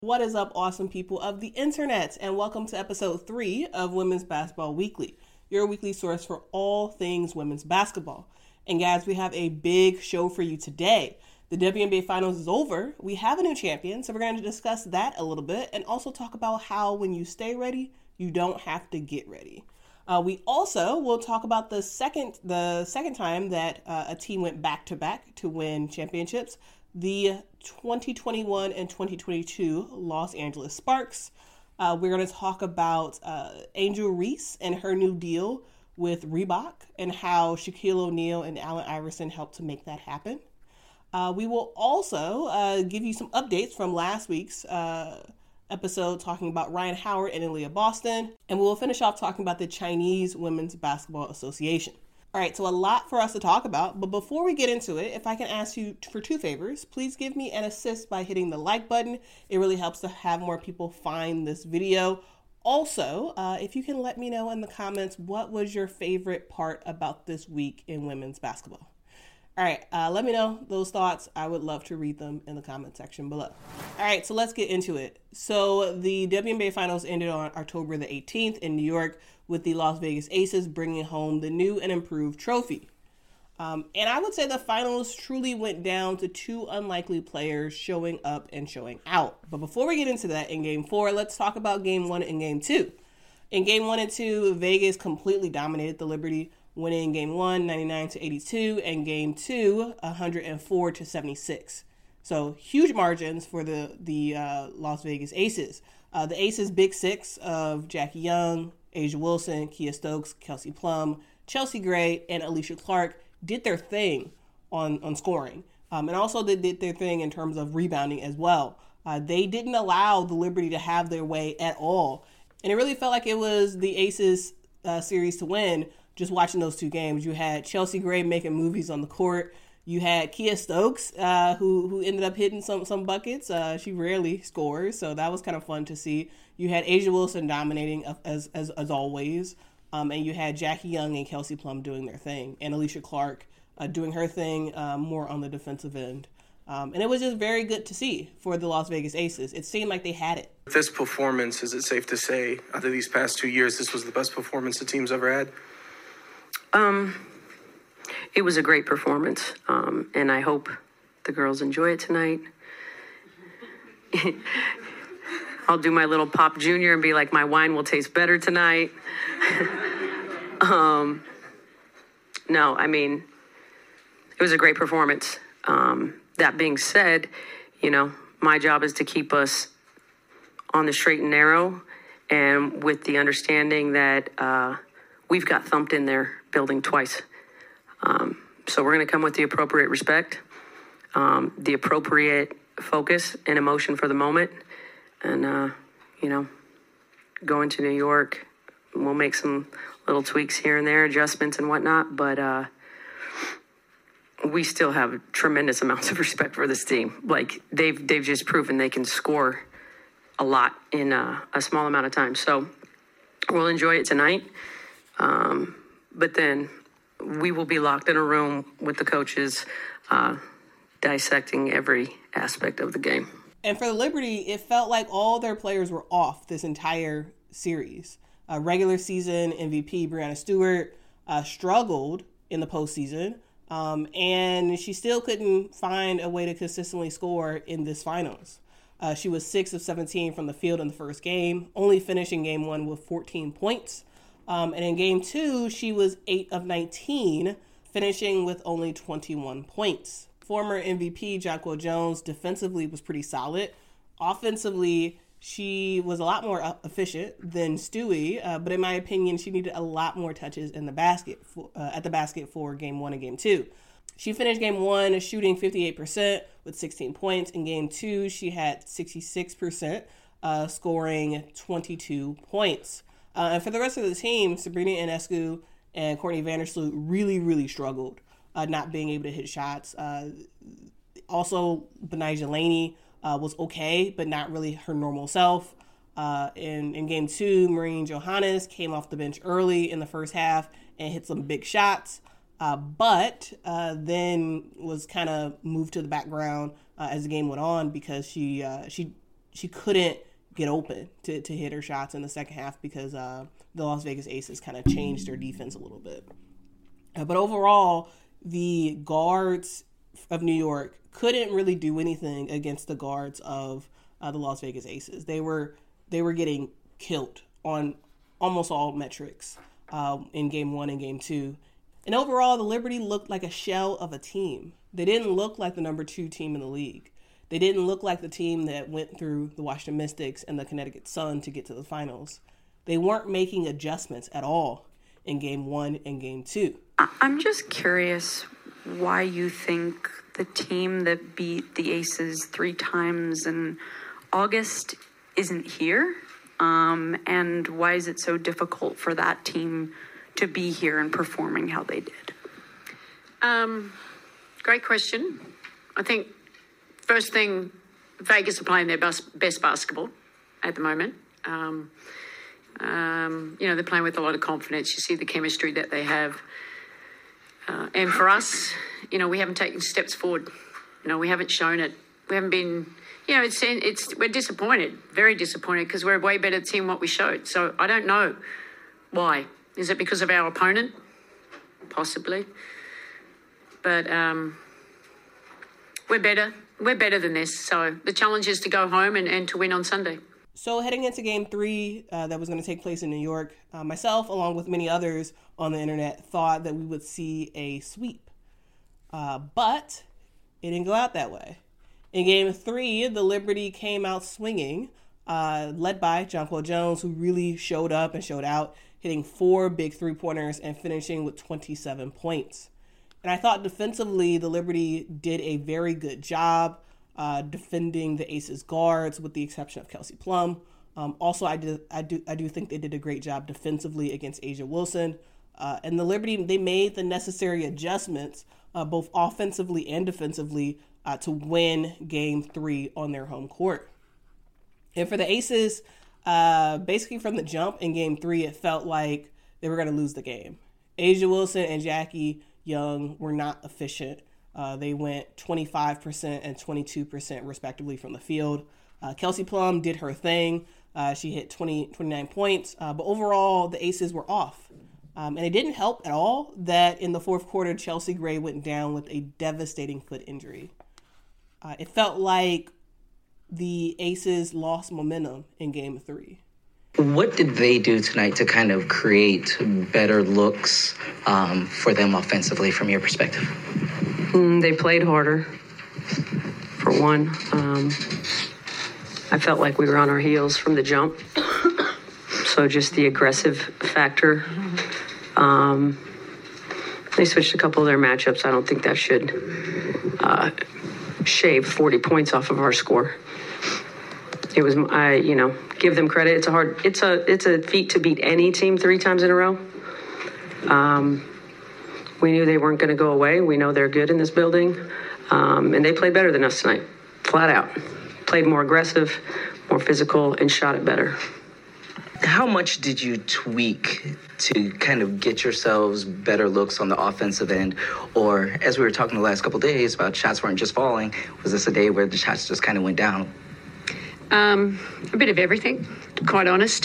What is up, awesome people of the internet, and welcome to episode 3 of Women's Basketball Weekly, your weekly source for all things women's basketball. And guys, we have a big show for you today. The WNBA Finals is over. We have a new champion, so we're going to discuss that a little bit and also talk about how when you stay ready, you don't have to get ready. We also will talk about the second time that a team went back-to-back to win championships, the 2021 and 2022 Los Angeles Sparks. We're going to talk about Angel Reese and her new deal with Reebok and how Shaquille O'Neal and Allen Iverson helped to make that happen. We will also give you some updates from last week's episode talking about Ryan Howard and Aaliyah Boston. And we'll finish off talking about the Chinese Women's Basketball Association. All right, so a lot for us to talk about, but before we get into it, if I can ask you for 2 favors, please give me an assist by hitting the like button. It really helps to have more people find this video. Also, if you can let me know in the comments, what was your favorite part about this week in women's basketball? All right, let me know those thoughts. I would love to read them in the comment section below. All right, so let's get into it. So the WNBA Finals ended on October the 18th in New York with the Las Vegas Aces bringing home the new and improved trophy. And I would say the finals truly went down to 2 unlikely players showing up and showing out. But before we get into that in Game 4, let's talk about Game 1 and Game 2. In Game 1 and 2, Vegas completely dominated the Liberty, winning Game 1, 99-82, and Game 2, 104-76. So huge margins for the Las Vegas Aces. The Aces' big 6 of Jackie Young, A'ja Wilson, Kiah Stokes, Kelsey Plum, Chelsea Gray, and Alysha Clark did their thing on scoring. And also they did their thing in terms of rebounding as well. They didn't allow the Liberty to have their way at all. And it really felt like it was the Aces series to win just watching those 2 games. You had Chelsea Gray making movies on the court. You had Kiah Stokes, who ended up hitting some buckets. She rarely scores, so that was kind of fun to see. You had A'ja Wilson dominating as always, and you had Jackie Young and Kelsey Plum doing their thing, and Alysha Clark doing her thing more on the defensive end. And it was just very good to see for the Las Vegas Aces. It seemed like they had it. This performance, is it safe to say, out of these past 2 years, this was the best performance the team's ever had? It was a great performance, and I hope the girls enjoy it tonight. I'll do my little Pop Junior and be like, my wine will taste better tonight. No, I mean, it was a great performance. That being said, my job is to keep us on the straight and narrow, and with the understanding that we've got thumped in their building twice. So we're going to come with the appropriate respect, the appropriate focus and emotion for the moment. And, going to New York, we'll make some little tweaks here and there, adjustments and whatnot. But we still have tremendous amounts of respect for this team. Like, they've just proven they can score a lot in a small amount of time. So we'll enjoy it tonight. But then we will be locked in a room with the coaches, dissecting every aspect of the game. And for the Liberty, it felt like all their players were off this entire series. Regular season MVP Breanna Stewart struggled in the postseason, and she still couldn't find a way to consistently score in this finals. She was 6 of 17 from the field in the first game, only finishing Game 1 with 14 points. And in Game 2, she was 8 of 19, finishing with only 21 points. Former MVP Jonquel Jones defensively was pretty solid. Offensively, she was a lot more efficient than Stewie, but in my opinion, she needed a lot more touches in the basket at the basket for Game 1 and Game 2. She finished Game 1 shooting 58% with 16 points. In Game 2, she had 66%, scoring 22 points. And for the rest of the team, Sabrina Ionescu and Courtney Vandersloot really, really struggled, not being able to hit shots. Also, Betnijah Laney was okay, but not really her normal self. In Game 2, Maureen Johannes came off the bench early in the first half and hit some big shots. but then was kind of moved to the background as the game went on because she she couldn't get open to hit her shots in the second half because the Las Vegas Aces kind of changed their defense a little bit. But overall, the guards of New York couldn't really do anything against the guards of the Las Vegas Aces. They were getting killed on almost all metrics in Game 1 and Game 2. And overall, the Liberty looked like a shell of a team. They didn't look like the number 2 team in the league. They didn't look like the team that went through the Washington Mystics and the Connecticut Sun to get to the finals. They weren't making adjustments at all in Game 1 and Game 2. I'm just curious why you think the team that beat the Aces 3 times in August isn't here, and why is it so difficult for that team to be here and performing how they did? Great question. I think first thing, Vegas are playing their best basketball at the moment. They're playing with a lot of confidence. You see the chemistry that they have. And for us, we haven't taken steps forward. We haven't shown it. We haven't been, we're disappointed, very disappointed, because we're a way better team than what we showed. So I don't know why. Is it because of our opponent? Possibly. But we're better. We're better than this. So the challenge is to go home and to win on Sunday. So heading into Game 3 that was going to take place in New York, myself, along with many others on the internet, thought that we would see a sweep. But it didn't go out that way. In Game 3, the Liberty came out swinging, led by Jonquel Jones, who really showed up and showed out, hitting 4 big three-pointers and finishing with 27 points. And I thought defensively, the Liberty did a very good job defending the Aces guards, with the exception of Kelsey Plum. Also, I do think they did a great job defensively against A'ja Wilson. And the Liberty, they made the necessary adjustments, both offensively and defensively, to win Game 3 on their home court. And for the Aces, basically from the jump in Game 3, it felt like they were going to lose the game. A'ja Wilson and Jackie Young were not efficient. They went 25% and 22% respectively from the field. Kelsey Plum did her thing. She hit 29 points. But overall, the Aces were off. And it didn't help at all that in the fourth quarter, Chelsea Gray went down with a devastating foot injury. It felt like the Aces lost momentum in Game 3. What did they do tonight to kind of create better looks for them offensively from your perspective? They played harder, for one. I felt like we were on our heels from the jump. So just the aggressive factor. They switched a couple of their matchups. I don't think that should shave 40 points off of our score. It was, give them credit. It's a feat to beat any team 3 times in a row. We knew they weren't going to go away. We know they're good in this building. And they played better than us tonight, flat out. Played more aggressive, more physical, and shot it better. How much did you tweak to kind of get yourselves better looks on the offensive end? Or, as we were talking the last couple of days about shots weren't just falling, was this a day where the shots just kind of went down? A bit of everything, quite honest.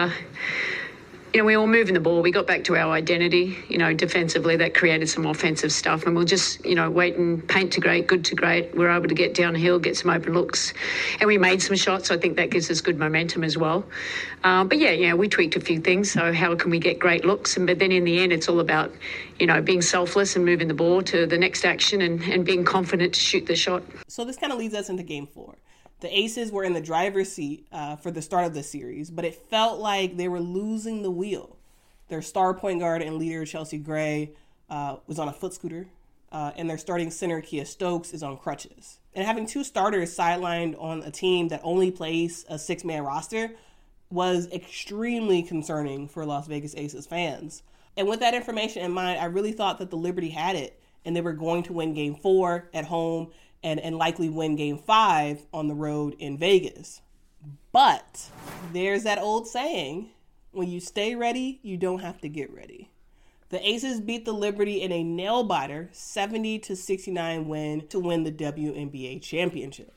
We were moving the ball. We got back to our identity, defensively. That created some offensive stuff. And we'll just, wait and paint to great, good to great. We're able to get downhill, get some open looks. And we made some shots. So I think that gives us good momentum as well. But we tweaked a few things. So how can we get great looks? But then in the end, it's all about, being selfless and moving the ball to the next action and being confident to shoot the shot. So this kind of leads us into Game 4. The Aces were in the driver's seat for the start of the series, but it felt like they were losing the wheel. Their star point guard and leader, Chelsea Gray, was on a foot scooter, and their starting center, Kia Stokes, is on crutches. And having 2 starters sidelined on a team that only plays a 6-man roster was extremely concerning for Las Vegas Aces fans. And with that information in mind, I really thought that the Liberty had it, and they were going to win Game 4 at home and likely win Game 5 on the road in Vegas. But there's that old saying, when you stay ready, you don't have to get ready. The Aces beat the Liberty in a nail-biter 70-69 win to win the WNBA championship.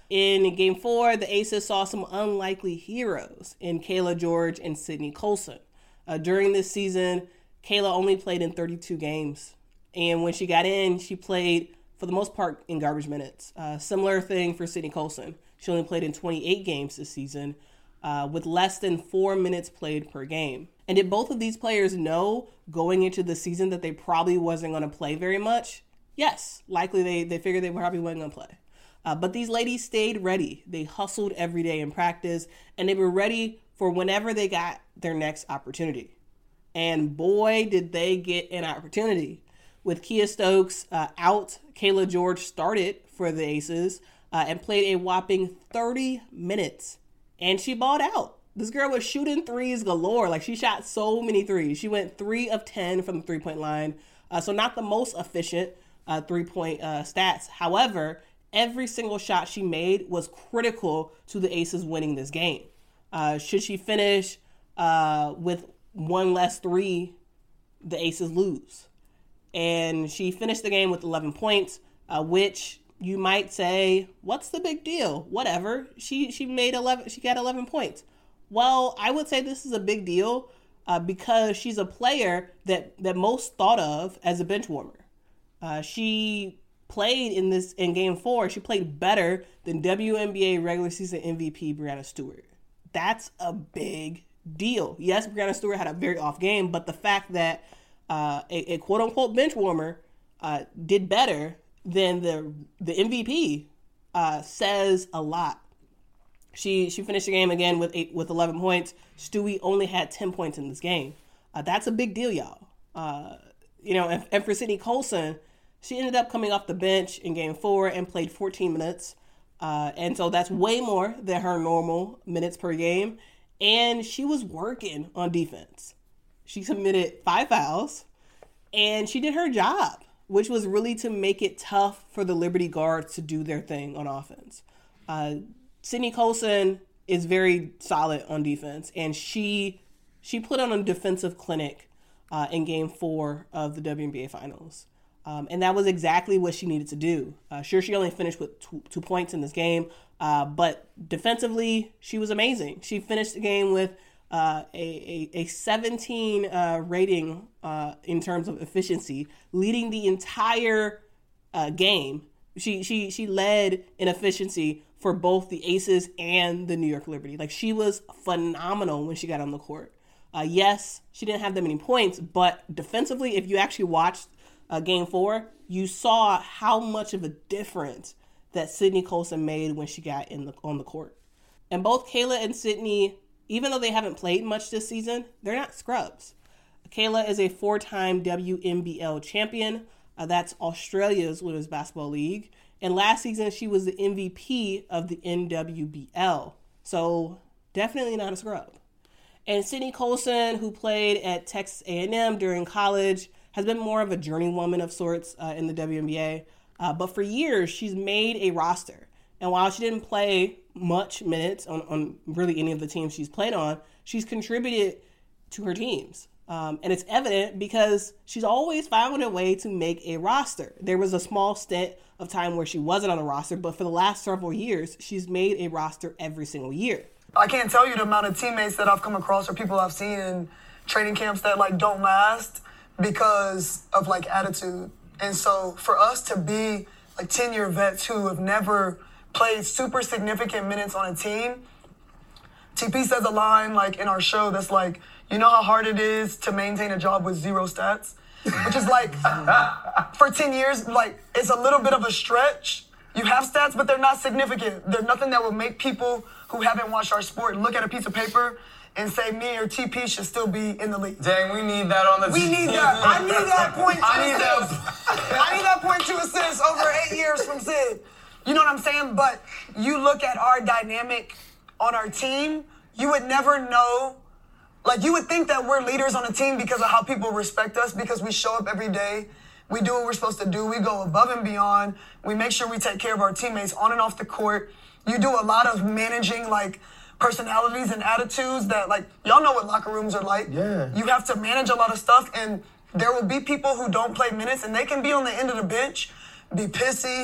In Game 4, the Aces saw some unlikely heroes in Kayla George and Sydney Colson. During this season, Kayla only played in 32 games. And when she got in, she played, for the most part, in garbage minutes. Similar thing for Sydney Colson. She only played in 28 games this season, with less than 4 minutes played per game. And did both of these players know going into the season that they probably wasn't going to play very much? Yes, likely they figured they probably wasn't going to play. But these ladies stayed ready. They hustled every day in practice, and they were ready for whenever they got their next opportunity. And boy, did they get an opportunity. With Kia Stokes out, Kayla George started for the Aces and played a whopping 30 minutes. And she balled out. This girl was shooting threes galore. Like, she shot so many threes. She went 3 of 10 from the three-point line. So not the most efficient three-point stats. However, every single shot she made was critical to the Aces winning this game. Should she finish with one less three, the Aces lose. And she finished the game with 11 points, which you might say, what's the big deal? Whatever. She made 11. She got 11 points. Well, I would say this is a big deal because she's a player that most thought of as a bench warmer. She played in Game 4. She played better than WNBA regular season MVP Breanna Stewart. That's a big deal. Yes, Breanna Stewart had a very off game, but the fact that a quote unquote bench warmer did better than the MVP says a lot. She finished the game again with 11 points. Stewie only had 10 points in this game. That's a big deal, y'all. And for Sydney Colson, she ended up coming off the bench in Game 4 and played 14 minutes. And so that's way more than her normal minutes per game. And she was working on defense. She committed 5 fouls, and she did her job, which was really to make it tough for the Liberty guards to do their thing on offense. Sydney Colson is very solid on defense, and she put on a defensive clinic in Game 4 of the WNBA Finals. And that was exactly what she needed to do. Sure, she only finished with 2 points in this game, but defensively, she was amazing. She finished the game with a 17 rating in terms of efficiency, leading the entire game. She led in efficiency for both the Aces and the New York Liberty. Like, she was phenomenal when she got on the court. Yes, she didn't have that many points, but defensively, if you actually watched Game 4, you saw how much of a difference that Sydney Colson made when she got on the court. And both Kayla and Sydney, even though they haven't played much this season, they're not scrubs. Kayla is a 4-time WNBL champion. That's Australia's Women's Basketball League. And last season, she was the MVP of the NWBL. So definitely not a scrub. And Sydney Colson, who played at Texas A&M during college, has been more of a journeywoman of sorts in the WNBA. But for years, she's made a roster. And while she didn't play much minutes on really any of the teams she's played on, she's contributed to her teams. And it's evident because she's always found a way to make a roster. There was a small stint of time where she wasn't on a roster, but for the last several years, she's made a roster every single year. I can't tell you the amount of teammates that I've come across or people I've seen in training camps that don't last because of attitude. And so for us to be 10-year vets who have never played super significant minutes on a team, TP says a line in our show that's you know how hard it is to maintain a job with 0 stats? Which is for 10 years, it's a little bit of a stretch. You have stats, but they're not significant. They're nothing that will make people who haven't watched our sport look at a piece of paper and say me or TP should still be in the league. Dang, we need that on the team. We need that. I need that point I need that point to assist over 8 years from Sid. You know what I'm saying? But you look at our dynamic on our team, you would never know. You would think that we're leaders on a team because of how people respect us, because we show up every day. We do what we're supposed to do. We go above and beyond. We make sure we take care of our teammates on and off the court. You do a lot of managing, personalities and attitudes that, y'all know what locker rooms are like. Yeah. You have to manage a lot of stuff, and there will be people who don't play minutes, and they can be on the end of the bench, be pissy,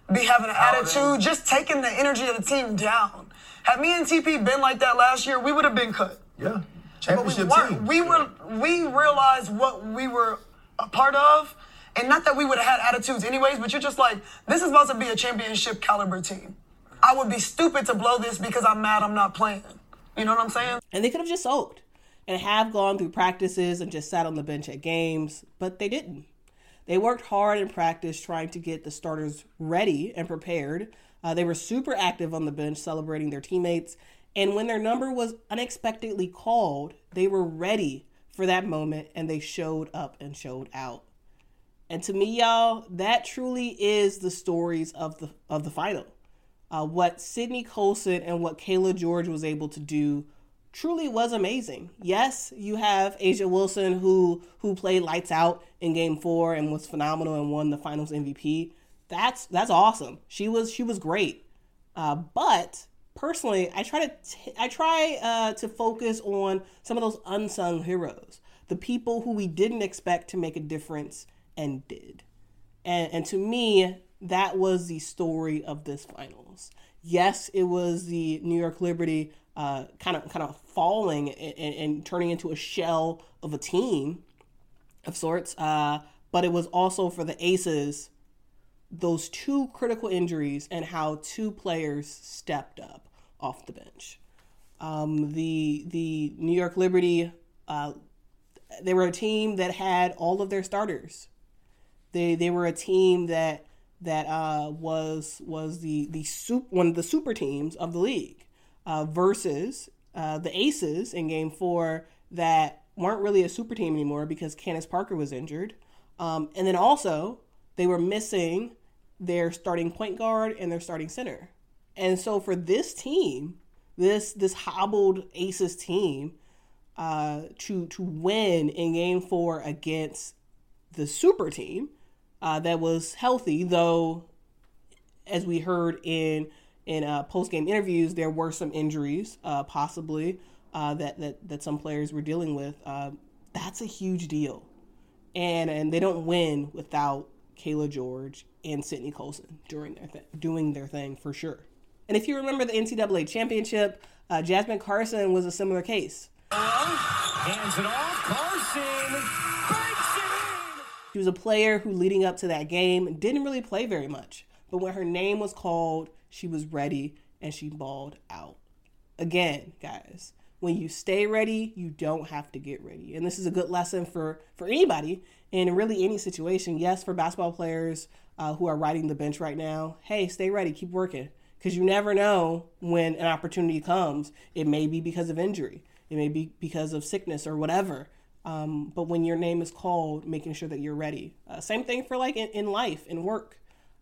be having an attitude, just taking the energy of the team down. Had me and TP been like that last year, we would have been cut. Yeah. Championship team. We realized what we were a part of, and not that we would have had attitudes anyways, but you're just like, this is about to be a championship caliber team. I would be stupid to blow this because I'm mad I'm not playing. You know what I'm saying? And they could have just sulked and have gone through practices and just sat on the bench at games, but they didn't. They worked hard in practice trying to get the starters ready and prepared. They were super active on the bench celebrating their teammates. And when their number was unexpectedly called, they were ready for that moment and they showed up and showed out. And to me, y'all, that truly is the stories of the final. What Sydney Colson and what Kayla George was able to do truly was amazing. Yes, you have A'ja Wilson who played lights out in Game 4 and was phenomenal and won the Finals MVP. That's awesome. She was great. But personally, I try to focus on some of those unsung heroes, the people who we didn't expect to make a difference and did. And to me, that was the story of this finals. Yes, it was the New York Liberty kind of falling and turning into a shell of a team of sorts. But it was also for the Aces, those two critical injuries and how two players stepped up off the bench. The New York Liberty, they were a team that had all of their starters. They were a team that was one of the super teams of the league versus the Aces in Game 4 that weren't really a super team anymore because Candace Parker was injured. And then also they were missing their starting point guard and their starting center. And so for this team, this hobbled Aces team to win in Game 4 against the super team that was healthy, though, as we heard in post-game interviews, there were some injuries possibly that some players were dealing with. That's a huge deal. And they don't win without Kayla George and Sydney Colson doing their thing for sure. And if you remember the NCAA championship, Jasmine Carson was a similar case. Hands it off, Carson breaks it in. She was a player who, leading up to that game, didn't really play very much. But when her name was called, she was ready and she balled out. Again, guys, when you stay ready, you don't have to get ready. And this is a good lesson for anybody in really any situation. Yes, for basketball players who are riding the bench right now, hey, stay ready, keep working. Because you never know when an opportunity comes. It may be because of injury. It may be because of sickness or whatever. But when your name is called, making sure that you're ready. Same thing for like in life, in work.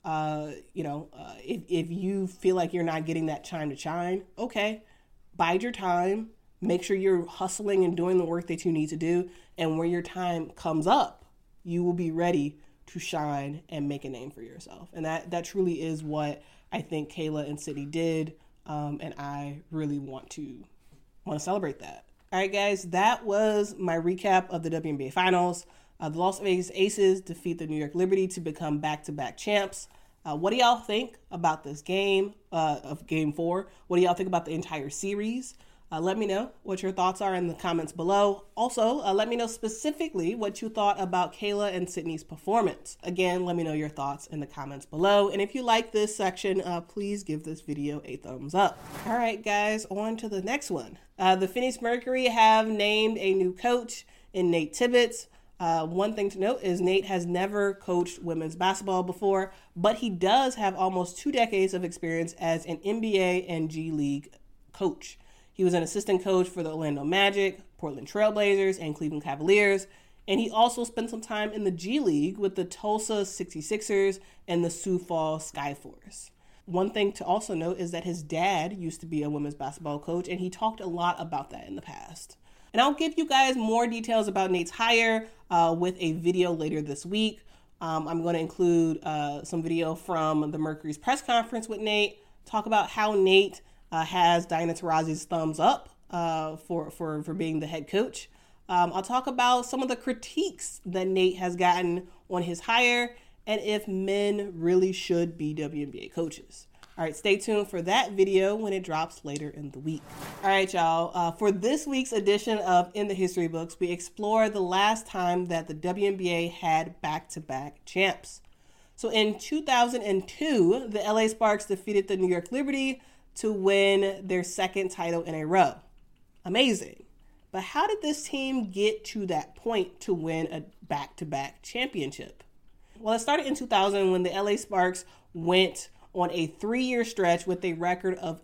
If you feel like you're not getting that time to shine, okay, bide your time. Make sure you're hustling and doing the work that you need to do. And when your time comes up, you will be ready to shine and make a name for yourself. And that truly is what I think Kayla and Sydney did. And I really want to celebrate that. All right, guys, that was my recap of the WNBA Finals. The Las Vegas Aces defeat the New York Liberty to become back-to-back champs. What do y'all think about this game of Game 4? What do y'all think about the entire series? Let me know what your thoughts are in the comments below. Also, let me know specifically what you thought about Kayla and Sydney's performance. Again, let me know your thoughts in the comments below. And if you like this section, please give this video a thumbs up. All right, guys, on to the next one. The Phoenix Mercury have named a new coach in Nate Tibbetts. One thing to note is Nate has never coached women's basketball before, but he does have almost 2 decades of experience as an NBA and G League coach. He was an assistant coach for the Orlando Magic, Portland Trail Blazers, and Cleveland Cavaliers. And he also spent some time in the G League with the Tulsa 66ers and the Sioux Falls Skyforce. One thing to also note is that his dad used to be a women's basketball coach, and he talked a lot about that in the past. And I'll give you guys more details about Nate's hire with a video later this week. I'm going to include some video from the Mercury's press conference with Nate, talk about how Nate has Diana Taurasi's thumbs up for being the head coach. I'll talk about some of the critiques that Nate has gotten on his hire, and if men really should be WNBA coaches. All right, stay tuned for that video when it drops later in the week. All right, y'all. For this week's edition of In the History Books, we explore the last time that the WNBA had back-to-back champs. So in 2002, the LA Sparks defeated the New York Liberty to win their second title in a row. Amazing. But how did this team get to that point to win a back-to-back championship? Well, it started in 2000 when the LA Sparks went on a 3-year stretch with a record of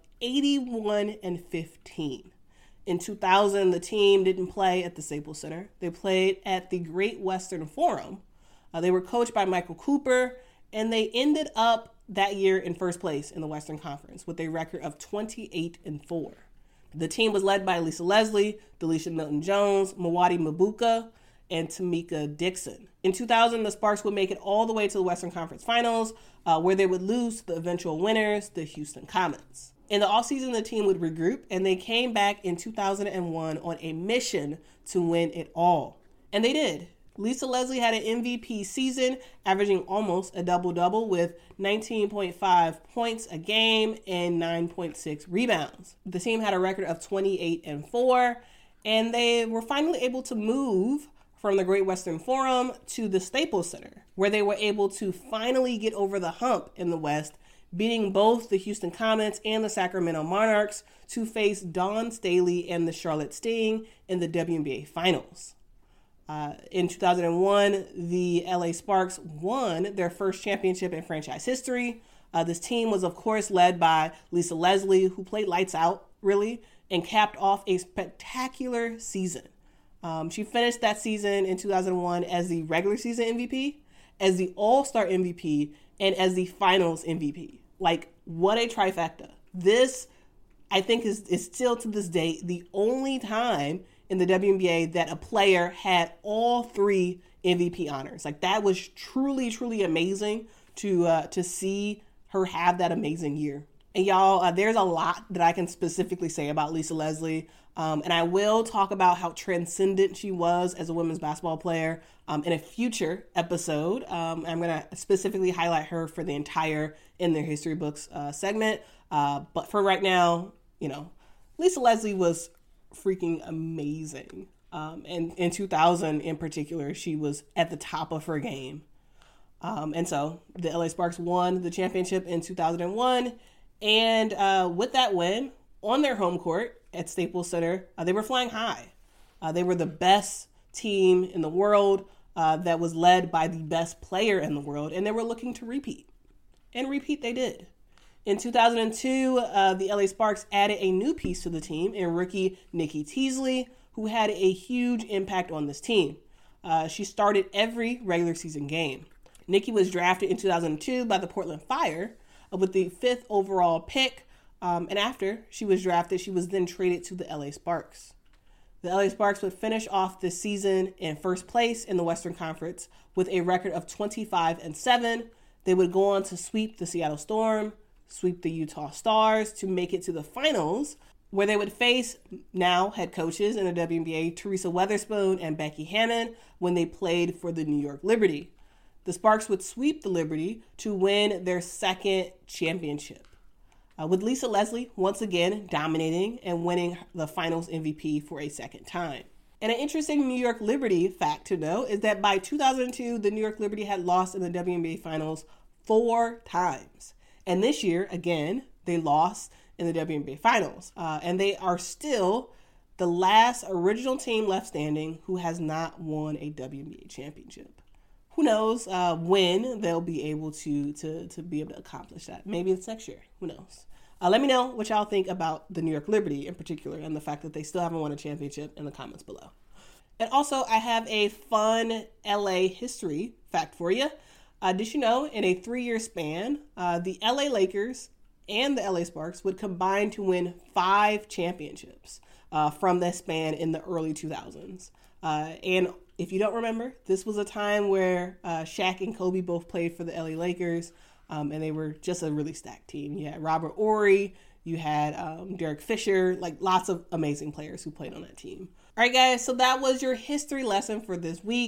81-15. In 2000, the team didn't play at the Staples Center. They played at the Great Western Forum. They were coached by Michael Cooper, and they ended up that year in first place in the Western Conference with a record of 28-4. The team was led by Lisa Leslie, Delisha Milton-Jones, Mwati Mbuka, and Tamika Dixon. In 2000, the Sparks would make it all the way to the Western Conference Finals, where they would lose to the eventual winners, the Houston Comets. In the offseason, the team would regroup, and they came back in 2001 on a mission to win it all. And they did. Lisa Leslie had an MVP season, averaging almost a double-double with 19.5 points a game and 9.6 rebounds. The team had a record of 28-4, and they were finally able to move from the Great Western Forum to the Staples Center, where they were able to finally get over the hump in the West, beating both the Houston Comets and the Sacramento Monarchs to face Dawn Staley and the Charlotte Sting in the WNBA Finals. In 2001, the LA Sparks won their first championship in franchise history. This team was, of course, led by Lisa Leslie, who played lights out, really, and capped off a spectacular season. She finished that season in 2001 as the regular season MVP, as the All-Star MVP, and as the Finals MVP. Like, what a trifecta. This, I think, is still to this day the only time in the WNBA that a player had all 3 MVP honors. Like, that was truly, truly amazing to see her have that amazing year. And y'all, there's a lot that I can specifically say about Lisa Leslie. And I will talk about how transcendent she was as a women's basketball player in a future episode. I'm going to specifically highlight her for the entire In Their History Books segment. But for right now, Lisa Leslie was freaking amazing. And in 2000 in particular, she was at the top of her game. And so the LA Sparks won the championship in 2001. And with that win on their home court at Staples Center, they were flying high. They were the best team in the world that was led by the best player in the world. And they were looking to repeat. And repeat they did. In 2002, the LA Sparks added a new piece to the team in rookie Nikki Teasley, who had a huge impact on this team. She started every regular season game. Nikki was drafted in 2002 by the Portland Fire with the 5th overall pick. And after she was drafted, she was then traded to the LA Sparks. The LA Sparks would finish off this season in first place in the Western Conference with a record of 25-7. They would go on to sweep the Seattle Storm, sweep the Utah Stars to make it to the finals, where they would face now head coaches in the WNBA, Teresa Weatherspoon and Becky Hammon, when they played for the New York Liberty. The Sparks would sweep the Liberty to win their second championship, with Lisa Leslie once again dominating and winning the Finals MVP for a second time. And an interesting New York Liberty fact to know is that by 2002, the New York Liberty had lost in the WNBA Finals 4 times. And this year, again, they lost in the WNBA Finals. And they are still the last original team left standing who has not won a WNBA championship. Who knows when they'll be able to be able to accomplish that. Maybe it's next year. Who knows? Let me know what y'all think about the New York Liberty in particular and the fact that they still haven't won a championship in the comments below. And also, I have a fun LA history fact for you. Did you know in a 3-year span, the LA Lakers and the LA Sparks would combine to win 5 championships from that span in the early 2000s. And if you don't remember, this was a time where Shaq and Kobe both played for the LA Lakers, and they were just a really stacked team. You had Robert Horry, you had Derek Fisher, like lots of amazing players who played on that team. All right, guys, so that was your history lesson for this week.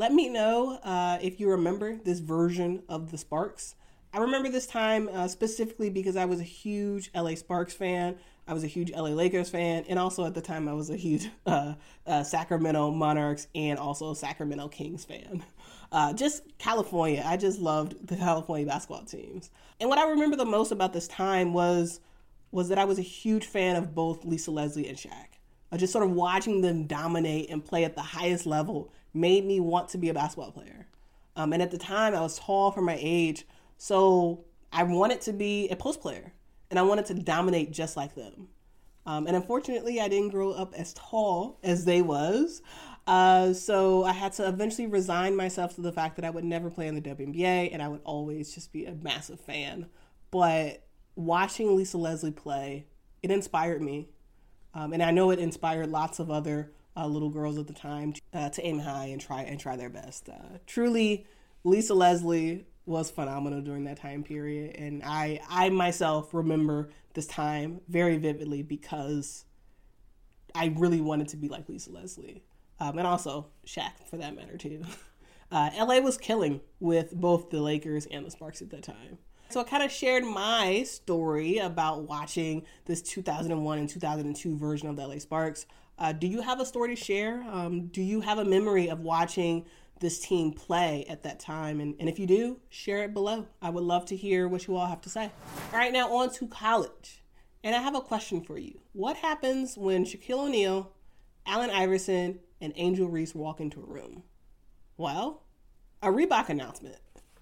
Let me know if you remember this version of the Sparks. I remember this time specifically because I was a huge LA Sparks fan. I was a huge LA Lakers fan. And also at the time, I was a huge Sacramento Monarchs and also Sacramento Kings fan. Just California. I just loved the California basketball teams. And what I remember the most about this time was that I was a huge fan of both Lisa Leslie and Shaq. Just sort of watching them dominate and play at the highest level made me want to be a basketball player. And at the time, I was tall for my age, so I wanted to be a post player, and I wanted to dominate just like them. And unfortunately, I didn't grow up as tall as they was, so I had to eventually resign myself to the fact that I would never play in the WNBA, and I would always just be a massive fan. But watching Lisa Leslie play, it inspired me. And I know it inspired lots of other little girls at the time to aim high and try their best. Truly, Lisa Leslie was phenomenal during that time period. And I myself remember this time very vividly because I really wanted to be like Lisa Leslie. And also Shaq, for that matter, too. LA was killing with both the Lakers and the Sparks at that time. So I kind of shared my story about watching this 2001 and 2002 version of the LA Sparks. Do you have a story to share? Do you have a memory of watching this team play at that time? And if you do, share it below. I would love to hear what you all have to say. All right, now on to college. And I have a question for you. What happens when Shaquille O'Neal, Allen Iverson, and Angel Reese walk into a room? Well, a Reebok announcement.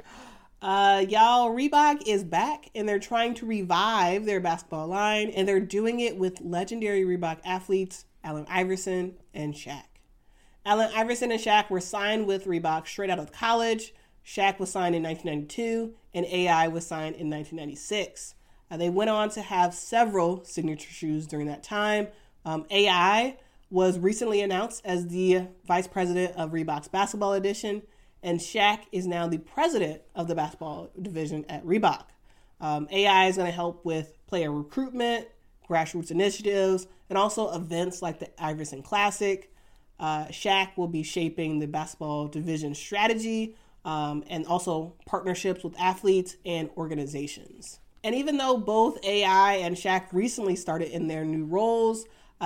Y'all, Reebok is back and they're trying to revive their basketball line, and they're doing it with legendary Reebok athletes Allen Iverson and Shaq. Allen Iverson and Shaq were signed with Reebok straight out of college. Shaq was signed in 1992 and AI was signed in 1996. They went on to have several signature shoes during that time. AI was recently announced as the vice president of Reebok's basketball edition, and Shaq is now the president of the basketball division at Reebok. AI is going to help with player recruitment, grassroots initiatives, and also events like the Iverson Classic. Shaq will be shaping the basketball division strategy and also partnerships with athletes and organizations. And even though both AI and Shaq recently started in their new roles,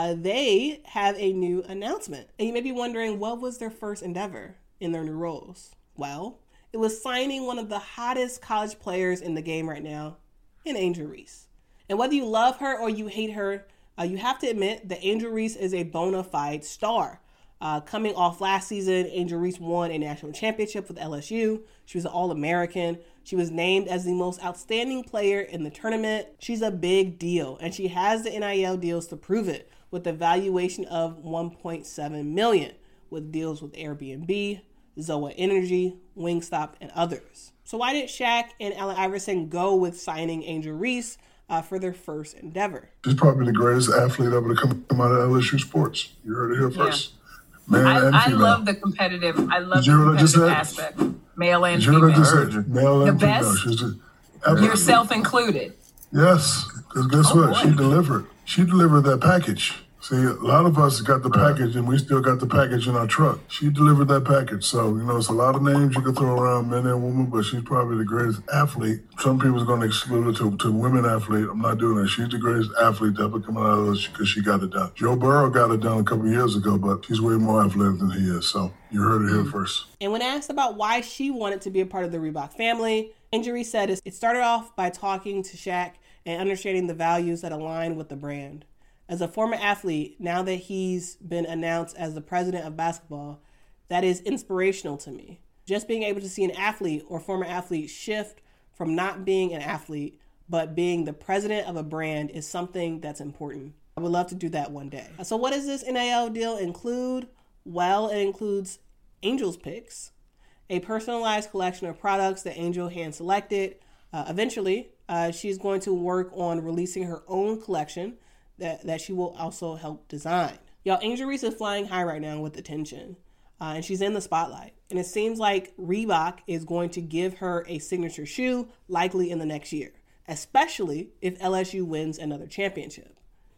they have a new announcement. And you may be wondering, what was their first endeavor in their new roles? Well, it was signing one of the hottest college players in the game right now, in Angel Reese. And whether you love her or you hate her, you have to admit that Angel Reese is a bona fide star. Coming off last season, Angel Reese won a national championship with LSU. She was an All-American. She was named as the most outstanding player in the tournament. She's a big deal, and she has the NIL deals to prove it, with a valuation of $1.7 million, with deals with Airbnb, Zoa Energy, Wingstop, and others. So why did Shaq and Allen Iverson go with signing Angel Reese for their first endeavor? She's probably the greatest athlete ever to come out of LSU sports. You heard it here first. Yeah. Man and I female. love the competitive. I love the competitive aspect. Male and female. Male and the female. Best, yourself included. Yes, because guess what? Boy. She delivered. She delivered that package. See, a lot of us got the package, and we still got the package in our truck. She delivered that package. So, it's a lot of names you can throw around, men and women, but she's probably the greatest athlete. Some people are going to exclude her to women athlete. I'm not doing that. She's the greatest athlete to ever come out of this because she got it done. Joe Burrow got it done a couple of years ago, but she's way more athletic than he is. So, you heard it here first. And when asked about why she wanted to be a part of the Reebok family, Angel Reese said it started off by talking to Shaq and understanding the values that align with the brand. As a former athlete, now that he's been announced as the president of basketball, that is inspirational to me. Just being able to see an athlete or former athlete shift from not being an athlete, but being the president of a brand is something that's important. I would love to do that one day. So what does this NIL deal include? Well, it includes Angel's Picks, a personalized collection of products that Angel hand-selected. Eventually, she's going to work on releasing her own collection that she will also help design. Y'all, Angel Reese is flying high right now with attention, and she's in the spotlight. And it seems like Reebok is going to give her a signature shoe, likely in the next year, especially if LSU wins another championship.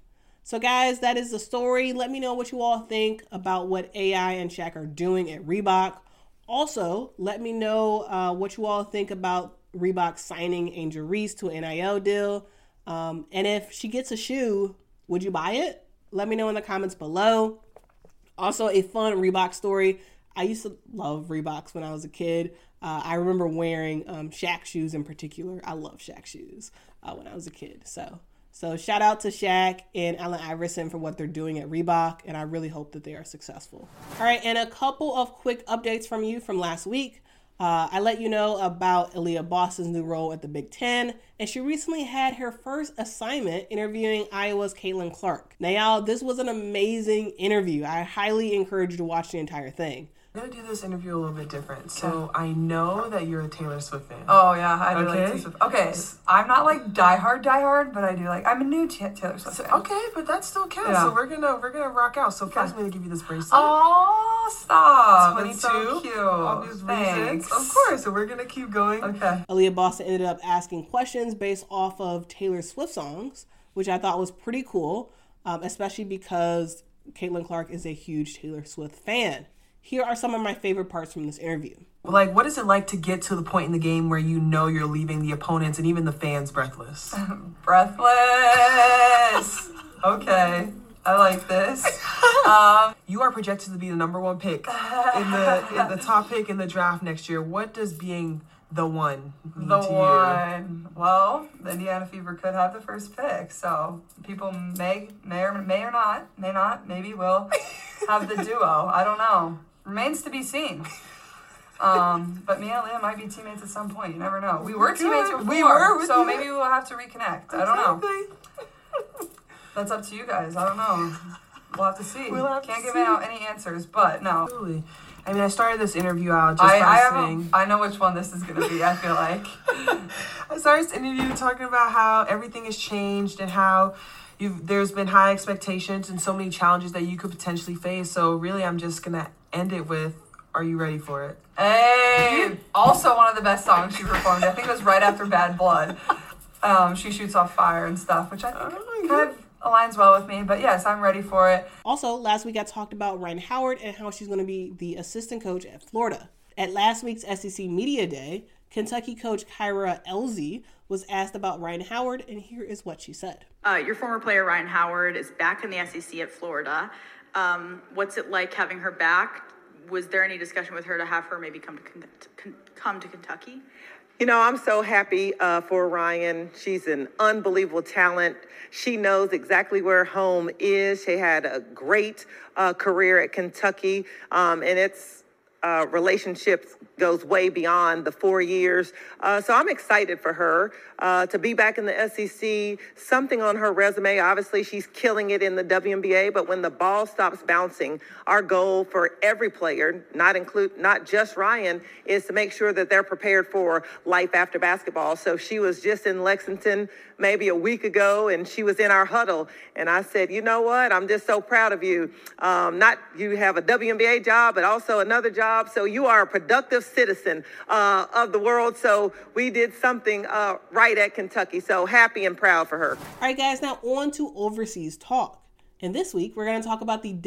So guys, that is the story. Let me know what you all think about what AI and Shaq are doing at Reebok. Also, let me know what you all think about Reebok signing Angel Reese to an NIL deal. And if she gets a shoe, would you buy it? Let me know in the comments below. Also, a fun Reebok story. I used to love Reeboks when I was a kid. I remember wearing Shaq shoes in particular. I love Shaq shoes when I was a kid. So shout out to Shaq and Allen Iverson for what they're doing at Reebok, and I really hope that they are successful. All right, and a couple of quick updates from you from last week. I let you know about Aaliyah Boston's new role at the Big Ten, and she recently had her first assignment interviewing Iowa's Caitlin Clark. Now, y'all, this was an amazing interview. I highly encourage you to watch the entire thing. I'm going to do this interview a little bit different. So I know that you're a Taylor Swift fan. Oh, yeah. I do like Taylor Swift. Okay. I'm not like diehard, but I do like, I'm a new Taylor Swift fan. Okay, but that still counts. Yeah. So we're gonna rock out. So first I'm going to give you this bracelet. Oh, stop. 22. It's so cute. Obvious reasons. Of course. So we're going to keep going. Okay. Aaliyah Boston ended up asking questions based off of Taylor Swift songs, which I thought was pretty cool, especially because Caitlin Clark is a huge Taylor Swift fan. Here are some of my favorite parts from this interview. Like, what is it like to get to the point in the game where you know you're leaving the opponents and even the fans breathless? Breathless. Okay. I like this. You are projected to be the number one pick in the top pick in the draft next year. What does being the one mean to you? Well, the Indiana Fever could have the first pick, so people may or not, maybe will have the duo. I don't know. Remains to be seen. But me and Leah might be teammates at some point. You never know. We were teammates before, so maybe we'll have to reconnect. I don't know. That's up to you guys. I don't know. We'll have to see. Can't give out any answers, but no. Absolutely. I mean, I started this interview out just by saying... I know which one this is going to be, I feel like. I started this interview talking about how everything has changed and how there's been high expectations and so many challenges that you could potentially face. So really, I'm just going to end it with, are you ready for it? Hey! Also one of the best songs she performed. I think it was right after Bad Blood. She shoots off fire and stuff, which I think kind of aligns well with me. But yes, I'm ready for it. Also, last week I talked about Rhyne Howard and how she's going to be the assistant coach at Florida. At last week's SEC Media Day, Kentucky coach Kyra Elzy was asked about Rhyne Howard, and here is what she said. Your former player Rhyne Howard is back in the SEC at Florida. What's it like having her back? Was there any discussion with her to have her maybe come to Kentucky? You know, I'm so happy for Ryan. She's an unbelievable talent. She knows exactly where home is. She had a great career at Kentucky, and it's relationships goes way beyond the 4 years. So I'm excited for her to be back in the SEC, something on her resume. Obviously, she's killing it in the WNBA, but when the ball stops bouncing, our goal for every player, not just Ryan, is to make sure that they're prepared for life after basketball. So she was just in Lexington maybe a week ago, and she was in our huddle. And I said, you know what? I'm just so proud of you. You have a WNBA job, but also another job. So you are a productive citizen of the world. So we did something right at Kentucky. So happy and proud for her. All right, guys, now on to overseas talk. And this week, we're going to talk about the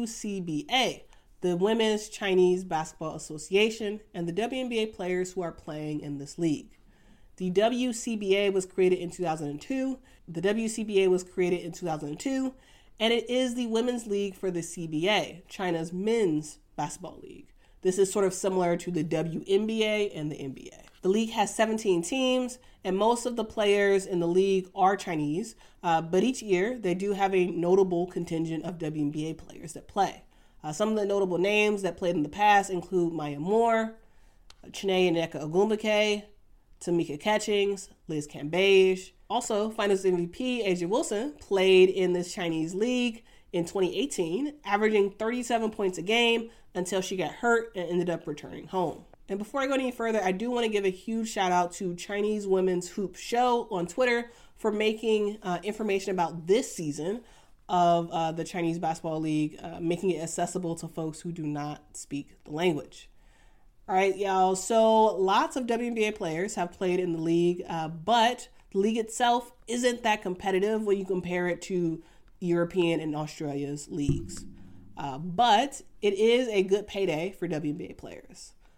WCBA, the Women's Chinese Basketball Association, and the WNBA players who are playing in this league. The WCBA was created in 2002. The WCBA was created in 2002, and it is the women's league for the CBA, China's men's basketball league. This is sort of similar to the WNBA and the NBA. The league has 17 teams, and most of the players in the league are Chinese, but each year they do have a notable contingent of WNBA players that play. Some of the notable names that played in the past include Maya Moore, Chiney Nneka Ogwumike, Tamika Catchings, Liz Cambage. Also, Finals MVP A'ja Wilson played in this Chinese league in 2018, averaging 37 points a game until she got hurt and ended up returning home. And before I go any further, I do want to give a huge shout out to Chinese Women's Hoop Show on Twitter for making information about this season of the Chinese Basketball League, making it accessible to folks who do not speak the language. All right, y'all. So lots of WNBA players have played in the league, but the league itself isn't that competitive when you compare it to European and Australia's leagues. But it is a good payday for WNBA players.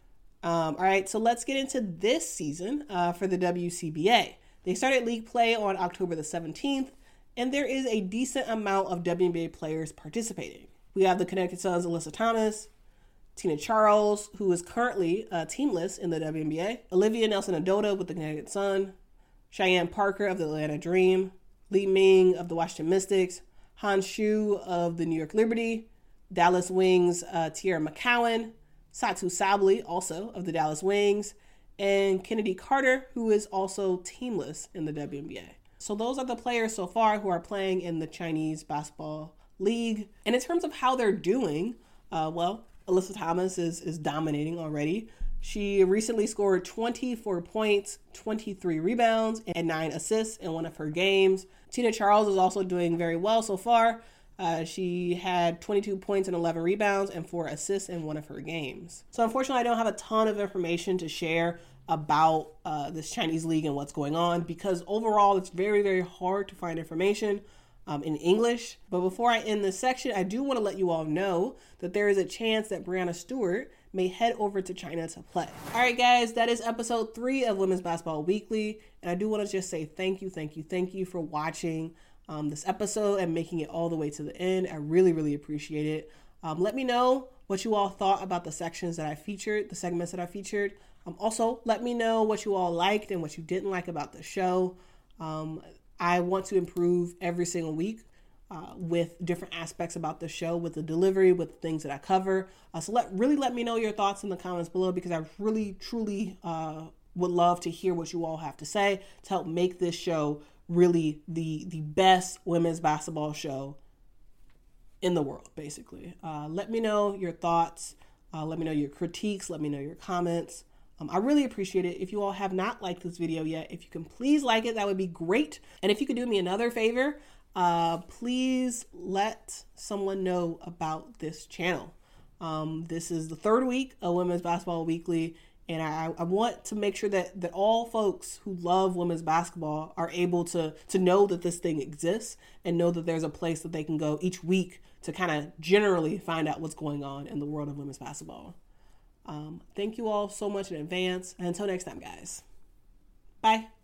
All right, so let's get into this season for the WCBA. They started league play on October the 17th, and there is a decent amount of WNBA players participating. We have the Connecticut Sun's Alyssa Thomas, Tina Charles, who is currently teamless in the WNBA, Olivia Nelson-Ododa with the Connecticut Sun, Cheyenne Parker of the Atlanta Dream, Li Ming of the Washington Mystics, Han Shu of the New York Liberty, Dallas Wings Tierra McCowan, Satu Sabli, also of the Dallas Wings, and Kennedy Carter, who is also teamless in the WNBA. So those are the players so far who are playing in the Chinese Basketball League. And in terms of how they're doing, Alyssa Thomas is dominating already. She recently scored 24 points, 23 rebounds, and 9 assists in one of her games. Tina Charles is also doing very well so far. She had 22 points and 11 rebounds and 4 assists in one of her games. So unfortunately, I don't have a ton of information to share about this Chinese league and what's going on, because overall it's very, very hard to find information in English. But before I end this section, I do want to let you all know that there is a chance that Breanna Stewart may head over to China to play. All right, guys, that is episode 3 of Women's Basketball Weekly. And I do want to just say thank you for watching this episode and making it all the way to the end. I really, really appreciate it. Let me know what you all thought about the sections that I featured, the segments that I featured. Also, let me know what you all liked and what you didn't like about the show. I want to improve every single week with different aspects about the show, with the delivery, with the things that I cover. So let me know your thoughts in the comments below, because I really, truly would love to hear what you all have to say to help make this show really the best women's basketball show in the world, basically. Let me know your thoughts. Let me know your critiques. Let me know your comments. I really appreciate it. If you all have not liked this video yet, if you can please like it, that would be great. And if you could do me another favor, please let someone know about this channel. This is the 3rd week of Women's Basketball Weekly, and I want to make sure that all folks who love women's basketball are able to know that this thing exists and know that there's a place that they can go each week to kind of generally find out what's going on in the world of women's basketball. Thank you all so much in advance. And until next time, guys. Bye.